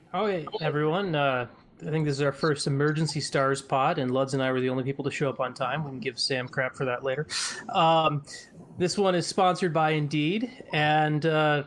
Oh, hey, everyone. I think this is our first Emergency Stars pod, and Luds and I were the only people to show up on time. We can give Sam crap for that later. Um, this one is sponsored by Indeed, and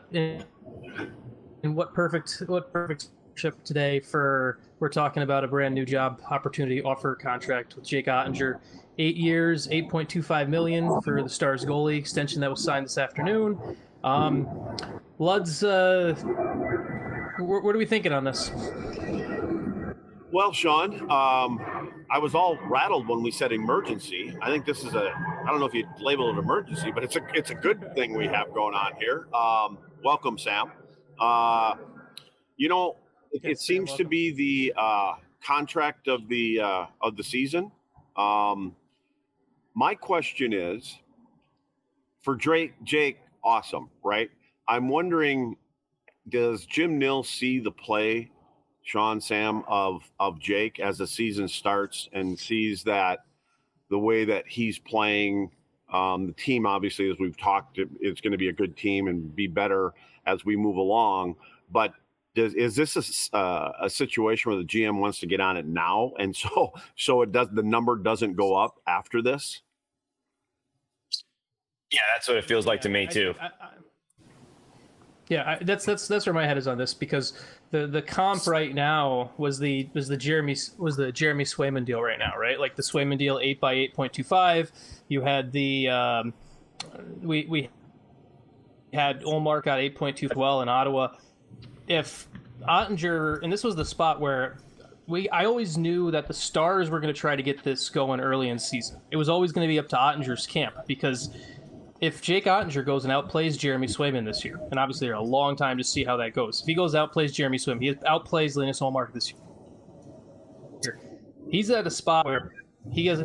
in what perfect ship today for we're talking about a brand new job opportunity offer contract with Jake Ottinger, 8 years, 8.25 million for the Stars goalie extension that was signed this afternoon. Luds, what are we thinking on this? Well, Sean, I was all rattled when we said emergency. I think this is I don't know if you'd label it emergency, but it's a good thing we have going on here. Welcome, Sam. Uh, it Yes, Sam, seems to welcome. be the contract of the season. Um, my question is for Jake, awesome, right? I'm wondering, does Jim Nill see the play, Sean, Sam, of Jake as the season starts and sees that the way that he's playing, the team, obviously, as we've talked, it's going to be a good team and be better as we move along. But is this a situation where the GM wants to get on it now, and so the number doesn't go up after this? Yeah, that's what it feels like to me I, too. that's where my head is on this, because the comp right now was the Jeremy Swayman deal right now, right? Like the Swayman deal, 8 by 8.25. You had the we had Olmark got 8.2 well in Ottawa. If Ottinger, and this was the spot where I always knew that the Stars were going to try to get this going early in the season. It was always going to be up to Ottinger's camp, because if Jake Ottinger goes and outplays Jeremy Swayman this year, and obviously they're a long time to see how that goes. If he goes outplays Jeremy Swayman, he outplays Linus Olmark this year. He's at a spot where he has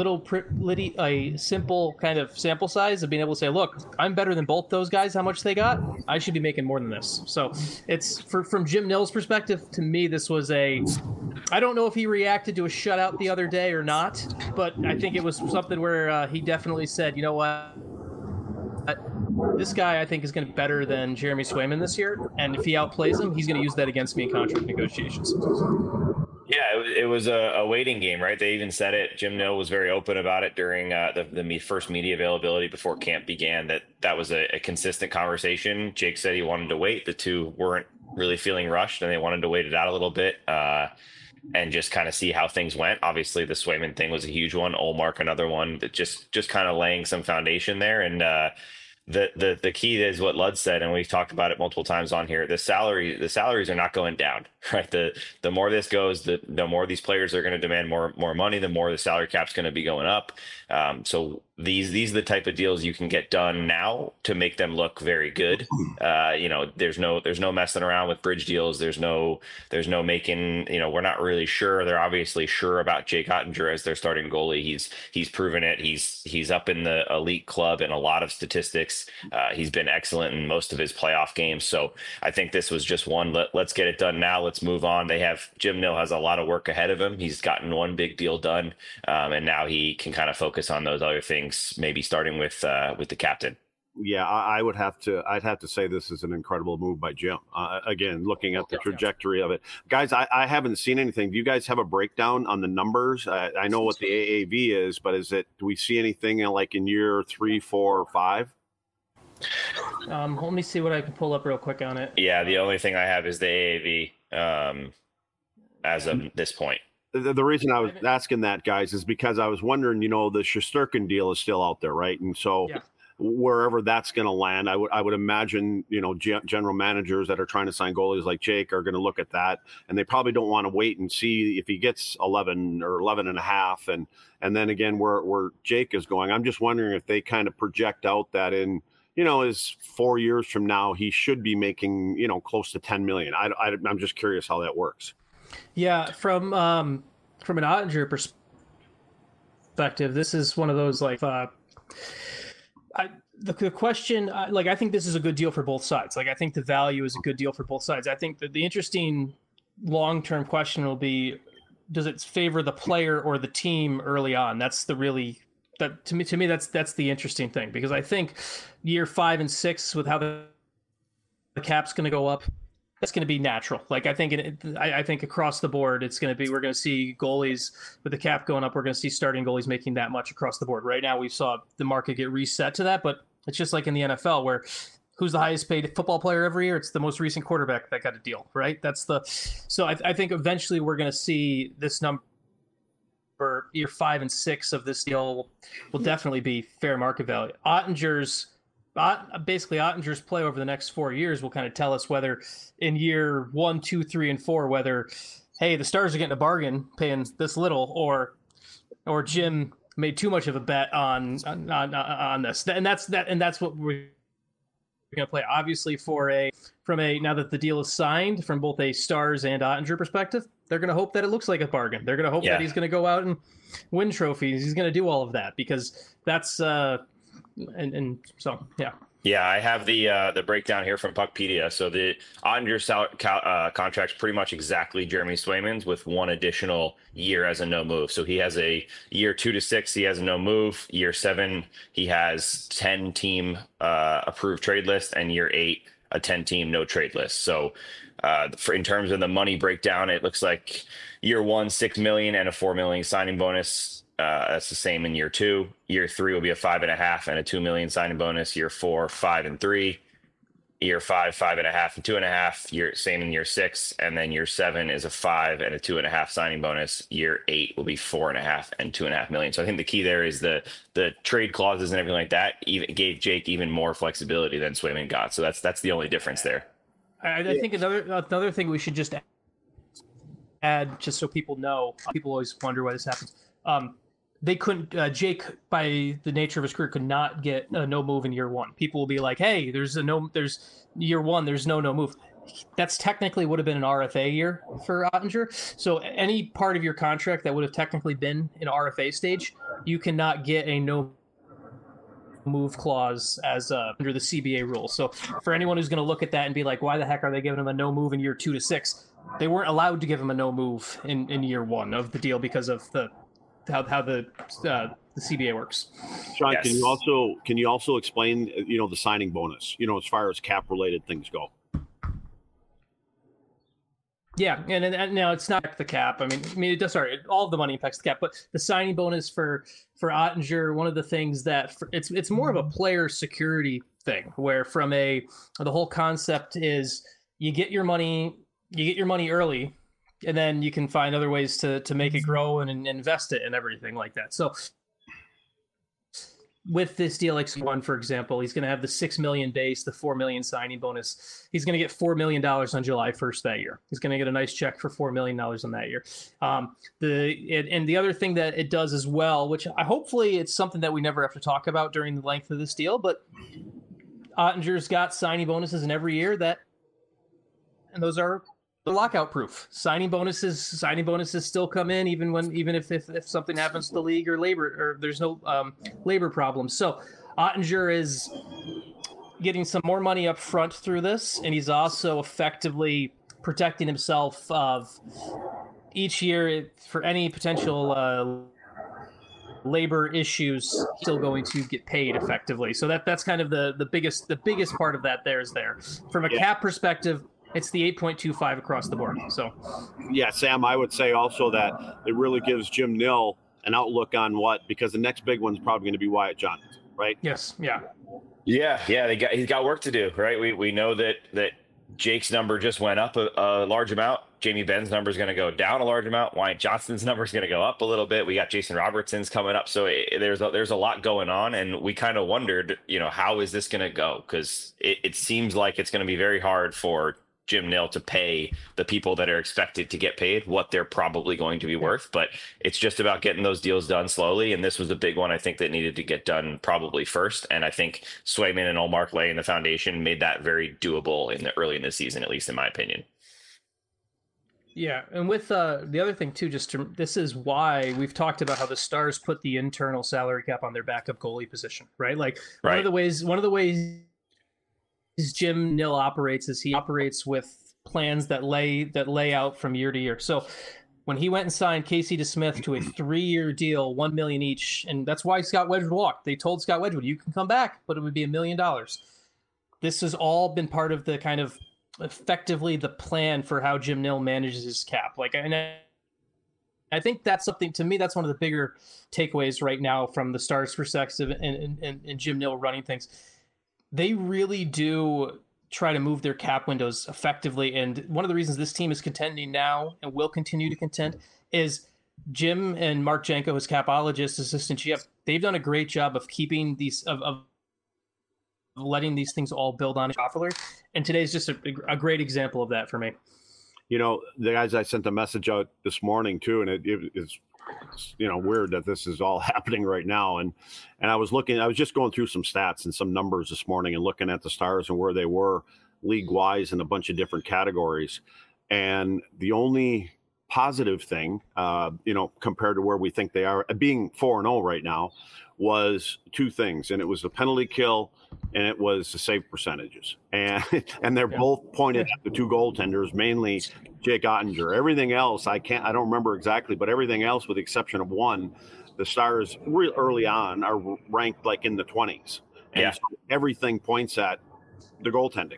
a simple kind of sample size of being able to say, look, I'm better than both those guys. How much they got? I should be making more than this. So it's from Jim Nill's perspective. To me, this was I don't know if he reacted to a shutout the other day or not, but I think it was something where he definitely said, you know what? This guy, I think, is going to be better than Jeremy Swayman this year, and if he outplays him, he's going to use that against me in contract negotiations. Yeah, it was a waiting game, right? They even said it. Jim Nill was very open about it during the first media availability before camp began, that was a consistent conversation. Jake said he wanted to wait. The two weren't really feeling rushed, and they wanted to wait it out a little bit and just kind of see how things went. Obviously, the Swayman thing was a huge one. Olmark, another one, that just kind of laying some foundation there. And the key is what Lud said, and we've talked about it multiple times on here. The salaries are not going down, right? The more this goes, the more these players are going to demand more money, the more the salary cap's going to be going up. So these are the type of deals you can get done now to make them look very good. There's no messing around with bridge deals. There's no making, we're not really sure. They're obviously sure about Jake Ottinger as their starting goalie. He's proven it. He's up in the elite club in a lot of statistics. He's been excellent in most of his playoff games. So I think this was just one. Let's get it done now. Let's move on. Jim Nill has a lot of work ahead of him. He's gotten one big deal done, and now he can kind of focus on those other things. Maybe starting with the captain. Yeah, I'd have to say this is an incredible move by Jim. Again, looking at the trajectory of it, guys, I haven't seen anything. Do you guys have a breakdown on the numbers? I know what the AAV is, but do we see anything like in year 3, 4, or 5? Let me see what I can pull up real quick on it. Yeah, the only thing I have is the AAV as of this point. The reason I was asking that, guys, is because I was wondering, the Shesterkin deal is still out there, right? And so wherever that's going to land, I would imagine, general managers that are trying to sign goalies like Jake are going to look at that, and they probably don't want to wait and see if he gets 11 or 11 and a half. And then again, where Jake is going, I'm just wondering if they kind of project out that in, is 4 years from now, he should be making, close to 10 million. I'm just curious how that works. Yeah, from an Ottinger perspective, this is one of those the question. I think this is a good deal for both sides. I think the value is a good deal for both sides. I think that the interesting long-term question will be, does it favor the player or the team early on? That's to me that's the interesting thing, because I think year 5 and 6, with how the cap's going to go up, that's going to be natural. Like I think across the board, we're going to see goalies with the cap going up. We're going to see starting goalies making that much across the board. Right now, we saw the market get reset to that, but it's just like in the NFL where who's the highest paid football player every year? It's the most recent quarterback that got a deal, right? So I think eventually we're going to see this number. For year 5 and 6 of this deal will definitely be fair market value. Ottinger's play over the next 4 years will kind of tell us whether in year 1, 2, 3, and 4, whether, hey, the Stars are getting a bargain paying this little, or Jim made too much of a bet on this. And that's what we're going to play. Obviously, now that the deal is signed, from both a Stars and Ottinger perspective, they're going to hope that it looks like a bargain. They're going to hope that he's going to go out and win trophies. He's going to do all of that because that's so yeah. Yeah, I have the breakdown here from Puckpedia. So the Ottinger contract's pretty much exactly Jeremy Swayman's with one additional year as a no move. So he has a year 2 to 6, he has a no move. Year 7, he has 10 team approved trade list, and year 8, a 10 team no trade list. So in terms of the money breakdown, it looks like year 1, $6 million and a $4 million signing bonus. That's the same in year 2. Year 3 will be a 5.5 and a $2 million signing bonus. Year 4, 5 and 3. Year 5, 5.5 and 2.5. Same in year 6, and then year 7 is a 5 and a 2.5 signing bonus. Year 8 will be 4.5 and $2.5 million. So I think the key there is the trade clauses and everything like that. Even gave Jake even more flexibility than Swayman got. So that's the only difference there. I think another thing we should just add, just so people know, people always wonder why this happens. They couldn't. Jake, by the nature of his career, could not get a no move in year 1. People will be like, "Hey, there's year 1. There's no move." That's technically would have been an RFA year for Ottinger. So any part of your contract that would have technically been an RFA stage, you cannot get a no move clause as under the CBA rules. So for anyone who's going to look at that and be like, why the heck are they giving him a no move in year 2 to 6? They weren't allowed to give him a no move in year 1 of the deal because of how the CBA works. Sean, Yes. can you also explain the signing bonus, as far as cap related things go? Yeah, and now it's not the cap. I mean, it does. Sorry, all of the money impacts the cap, but the signing bonus for Ottinger, one of the things that it's more of a player security thing, where the whole concept is you get your money early, and then you can find other ways to make it grow and invest it and everything like that. So with this deal, like one, for example, he's going to have the $6 million base, the $4 million signing bonus. He's going to get $4 million on July 1st that year. He's going to get a nice check for $4 million on that year. And the other thing that it does as well, which hopefully it's something that we never have to talk about during the length of this deal, but Ottinger's got signing bonuses in every year and those are lockout proof. Signing bonuses still come in even if something happens to the league or labor, or there's no labor problems. So Ottinger is getting some more money up front through this, and he's also effectively protecting himself of each year for any potential labor issues. Still going to get paid effectively. So that's kind of the biggest part of that. There from a cap perspective. It's the 8.25 across the board. So, yeah, Sam, I would say also that it really gives Jim Nill an outlook on because the next big one's probably going to be Wyatt Johnston, right? Yes, yeah. He's got work to do, right? We know that Jake's number just went up a large amount. Jamie Benn's number is going to go down a large amount. Wyatt Johnston's number is going to go up a little bit. We got Jason Robertson's coming up. So there's a lot going on. And we kind of wondered, how is this going to go? Because it seems like it's going to be very hard for Jim Nill to pay the people that are expected to get paid what they're probably going to be worth, but it's just about getting those deals done slowly. And this was a big one, I think, that needed to get done probably first. And I think Swayman and Ullmark laying the foundation made that very doable early in the season, at least in my opinion. Yeah, and with the other thing too, this is why we've talked about how the Stars put the internal salary cap on their backup goalie position, right? Like one of the ways Jim Nill operates is he operates with plans that lay out from year to year. So when he went and signed Casey DeSmith to a 3-year deal, $1 million each, and that's why Scott Wedgwood walked. They told Scott Wedgwood, "You can come back, but it would be $1 million." This has all been part of the kind of effectively the plan for how Jim Nill manages his cap. Like, and I think that's something, to me, that's one of the bigger takeaways right now from the Stars' perspective and Jim Nill running things. They really do try to move their cap windows effectively. And one of the reasons this team is contending now and will continue to contend is Jim and Mark Janko, his capologist, assistant GM, they've done a great job of keeping these, of letting these things all build on each other. And today's just a great example of that for me. You know, the guys, I sent a message out this morning too, and it is, you know, weird that this is all happening right now. And I was just going through some stats and some numbers this morning and looking at the Stars and where they were league wise in a bunch of different categories. And the only positive thing, you know, compared to where we think they are, being 4-0 right now, was two things. And it was the penalty kill and it was the save percentages. And they're both pointed at the two goaltenders, mainly Jake Ottinger. Everything else, I don't remember exactly, but everything else, with the exception of one, the Stars real early on are ranked like in the 20s. And so everything points at the goaltending.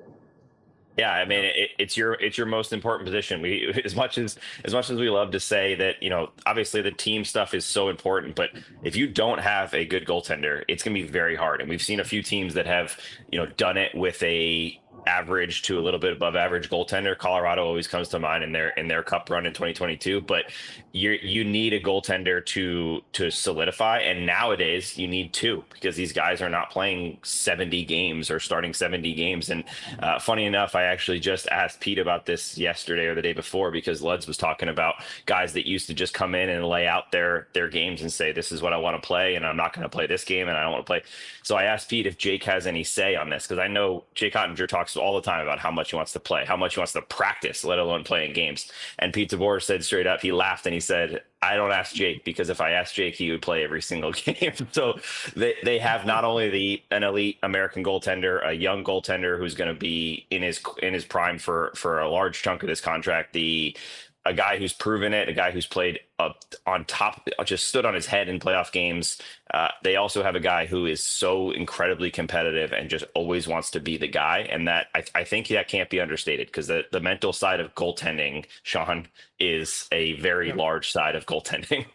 Yeah, I mean, it's your most important position. We, as much as we love to say that, you know, obviously the team stuff is so important, but if you don't have a good goaltender, it's going to be very hard. And we've seen a few teams that have, you know, done it with a average to a little bit above average goaltender. Colorado always comes to mind in their cup run in 2022, but you need a goaltender to solidify. And nowadays you need two, because these guys are not playing 70 games or starting 70 games. And funny enough, I actually just asked Pete about this yesterday or the day before, because Luds was talking about guys that used to just come in and lay out their games and say, this is what I want to play, and I'm not going to play this game, and I don't want to play. So I asked Pete if Jake has any say on this, because I know Jake Ottinger talks all the time about how much he wants to play, how much he wants to practice, let alone playing games. And Pete DeBoer said straight up, he laughed and he said, I don't ask Jake, because if I asked Jake, he would play every single game. So they have not only an elite American goaltender, a young goaltender who's going to be in his prime for a large chunk of this contract, a guy who's proven it, a guy who's played on top, just stood on his head in playoff games. They also have a guy who is so incredibly competitive and just always wants to be the guy. And that I think that can't be understated, because the mental side of goaltending, Sean, is a very large side of goaltending.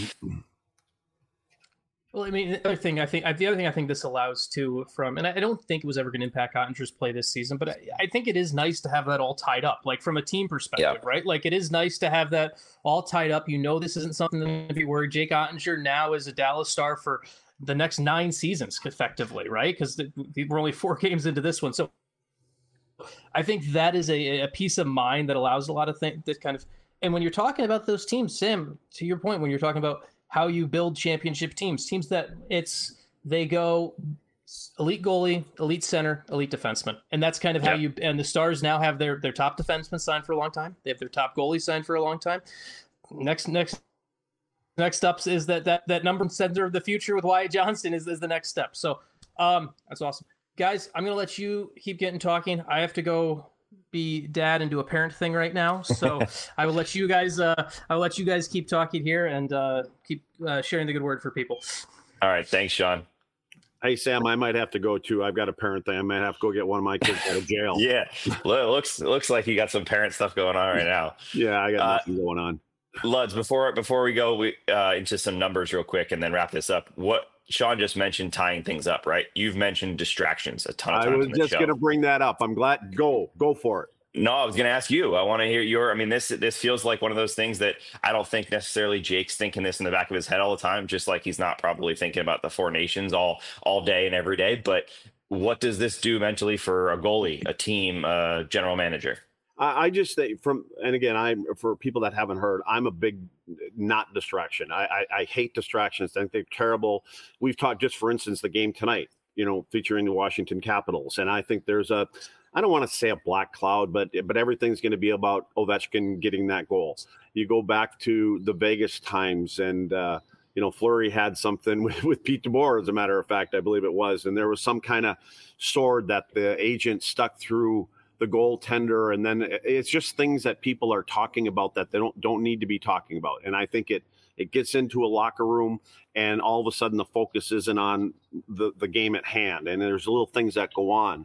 Well, I mean, the other thing I think this allows too, and I don't think it was ever going to impact Ottinger's play this season, but I think it is nice to have that all tied up, like from a team perspective, right? Like, it is nice to have that all tied up. You know, this isn't something to be worried. Jake Ottinger now is a Dallas Star for the next 9 seasons, effectively, right? Because we're only 4 games into this one. So I think that is a peace of mind that allows a lot of things that kind of, and when you're talking about those teams, Sam, to your point, when you're talking about how you build championship teams that they go elite goalie, elite center, elite defenseman. And that's kind of how and the Stars now have their top defenseman signed for a long time. They have their top goalie signed for a long time. Next up is that number center of the future with Wyatt Johnston is the next step. So that's awesome. Guys, I'm going to let you keep getting talking. I have to go be dad and do a parent thing right now, so I will let you guys keep talking here and keep sharing the good word for people. All right, thanks, Sean. Hey, Sam, I might have to go too. I've got a parent thing. I might have to go get one of my kids out of jail. Yeah, looks like you got some parent stuff going on right now. Yeah, I got nothing going on. Luds, before we go into some numbers real quick and then wrap this up, what Sean just mentioned, tying things up, right? You've mentioned distractions a ton of times. I was just going to bring that up. I'm glad. Go for it. No, I was going to ask you. I want to hear this feels like one of those things that I don't think necessarily Jake's thinking this in the back of his head all the time, just like he's not probably thinking about the 4 nations all day and every day. But what does this do mentally for a goalie, a team, a general manager? I just think for people that haven't heard, I'm a big not distraction. I hate distractions. I think they're terrible. We've talked, just for instance, the game tonight, featuring the Washington Capitals. And I think there's I don't want to say a black cloud, but everything's going to be about Ovechkin getting that goal. You go back to the Vegas times and, Fleury had something with Pete DeBoer, as a matter of fact, I believe it was. And there was some kind of sword that the agent stuck through the goaltender, and then it's just things that people are talking about that they don't need to be talking about. And I think it gets into a locker room, and all of a sudden the focus isn't on the game at hand, and there's little things that go on.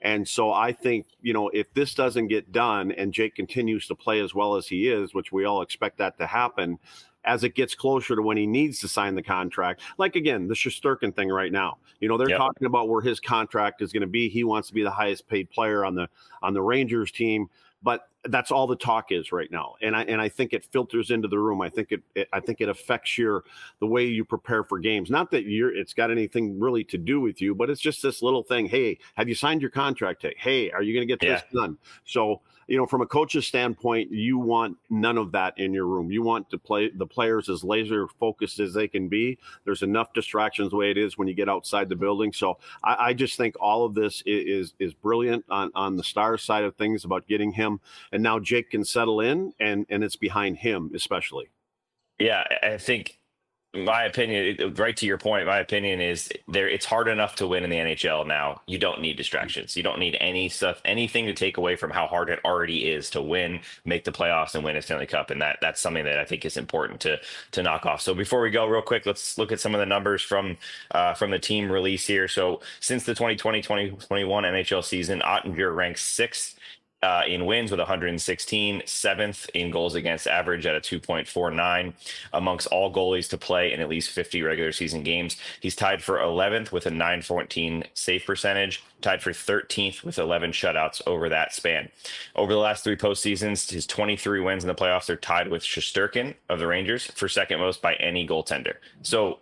And so I think, if this doesn't get done and Jake continues to play as well as he is, which we all expect that to happen, as it gets closer to when he needs to sign the contract, like again, the Shesterkin thing right now, they're talking about where his contract is going to be. He wants to be the highest paid player on the Rangers team, but that's all the talk is right now. And I think it filters into the room. I think it affects the way you prepare for games. Not that it's got anything really to do with you, but it's just this little thing. Hey, have you signed your contract? Hey, are you going to get this done? So, from a coach's standpoint, you want none of that in your room. You want to play the players as laser focused as they can be. There's enough distractions the way it is when you get outside the building. So I just think all of this is brilliant on the Stars side of things about getting him. And now Jake can settle in, and it's behind him especially. Yeah, I think my opinion, right to your point, my opinion is it's hard enough to win in the NHL now. You don't need distractions. You don't need anything to take away from how hard it already is to win, make the playoffs, and win a Stanley Cup. And that's something that I think is important to knock off. So before we go real quick, let's look at some of the numbers from the team release here. So since the 2020-2021 NHL season, Ottinger ranks 6th in wins with 116, 7th in goals against average at a 2.49 amongst all goalies to play in at least 50 regular season games. He's tied for 11th with a 914 save percentage, tied for 13th with 11 shutouts over that span. Over the last 3 postseasons, his 23 wins in the playoffs are tied with Shesterkin of the Rangers for second most by any goaltender. So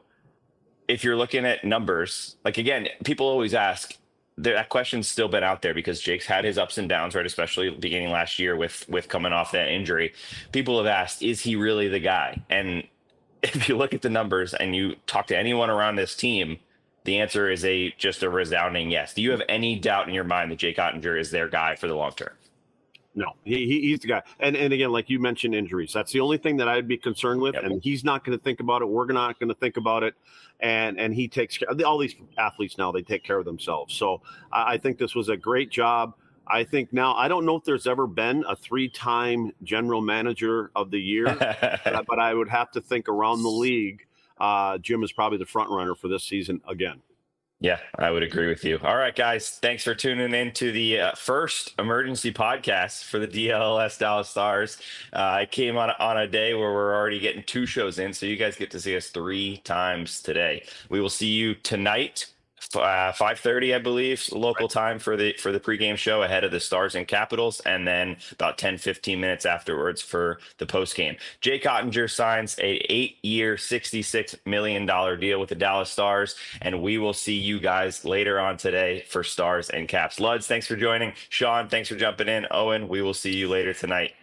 if you're looking at numbers, like again, people always ask, that question's still been out there because Jake's had his ups and downs, right? Especially beginning last year with coming off that injury. People have asked, is he really the guy? And if you look at the numbers and you talk to anyone around this team, the answer is just a resounding yes. Do you have any doubt in your mind that Jake Ottinger is their guy for the long term? No, he's the guy. And again, like you mentioned, injuries. That's the only thing that I'd be concerned with. Yep. And he's not going to think about it. We're not going to think about it. And he takes care of all these athletes now. They take care of themselves. So I think this was a great job. I think now, I don't know if there's ever been a 3-time general manager of the year, but I would have to think around the league, Jim is probably the front runner for this season again. Yeah, I would agree with you. All right, guys. Thanks for tuning in to the first emergency podcast for the DLS Dallas Stars. I came on a day where we're already getting 2 shows in, so you guys get to see us 3 times today. We will see you tonight, 5:30, I believe, local time for the pregame show ahead of the Stars and Capitals, and then about 10-15 minutes afterwards for the postgame. Jake Ottinger signs a 8-year, $66 million deal with the Dallas Stars, and we will see you guys later on today for Stars and Caps. Luds, thanks for joining. Sean, thanks for jumping in. Owen, we will see you later tonight.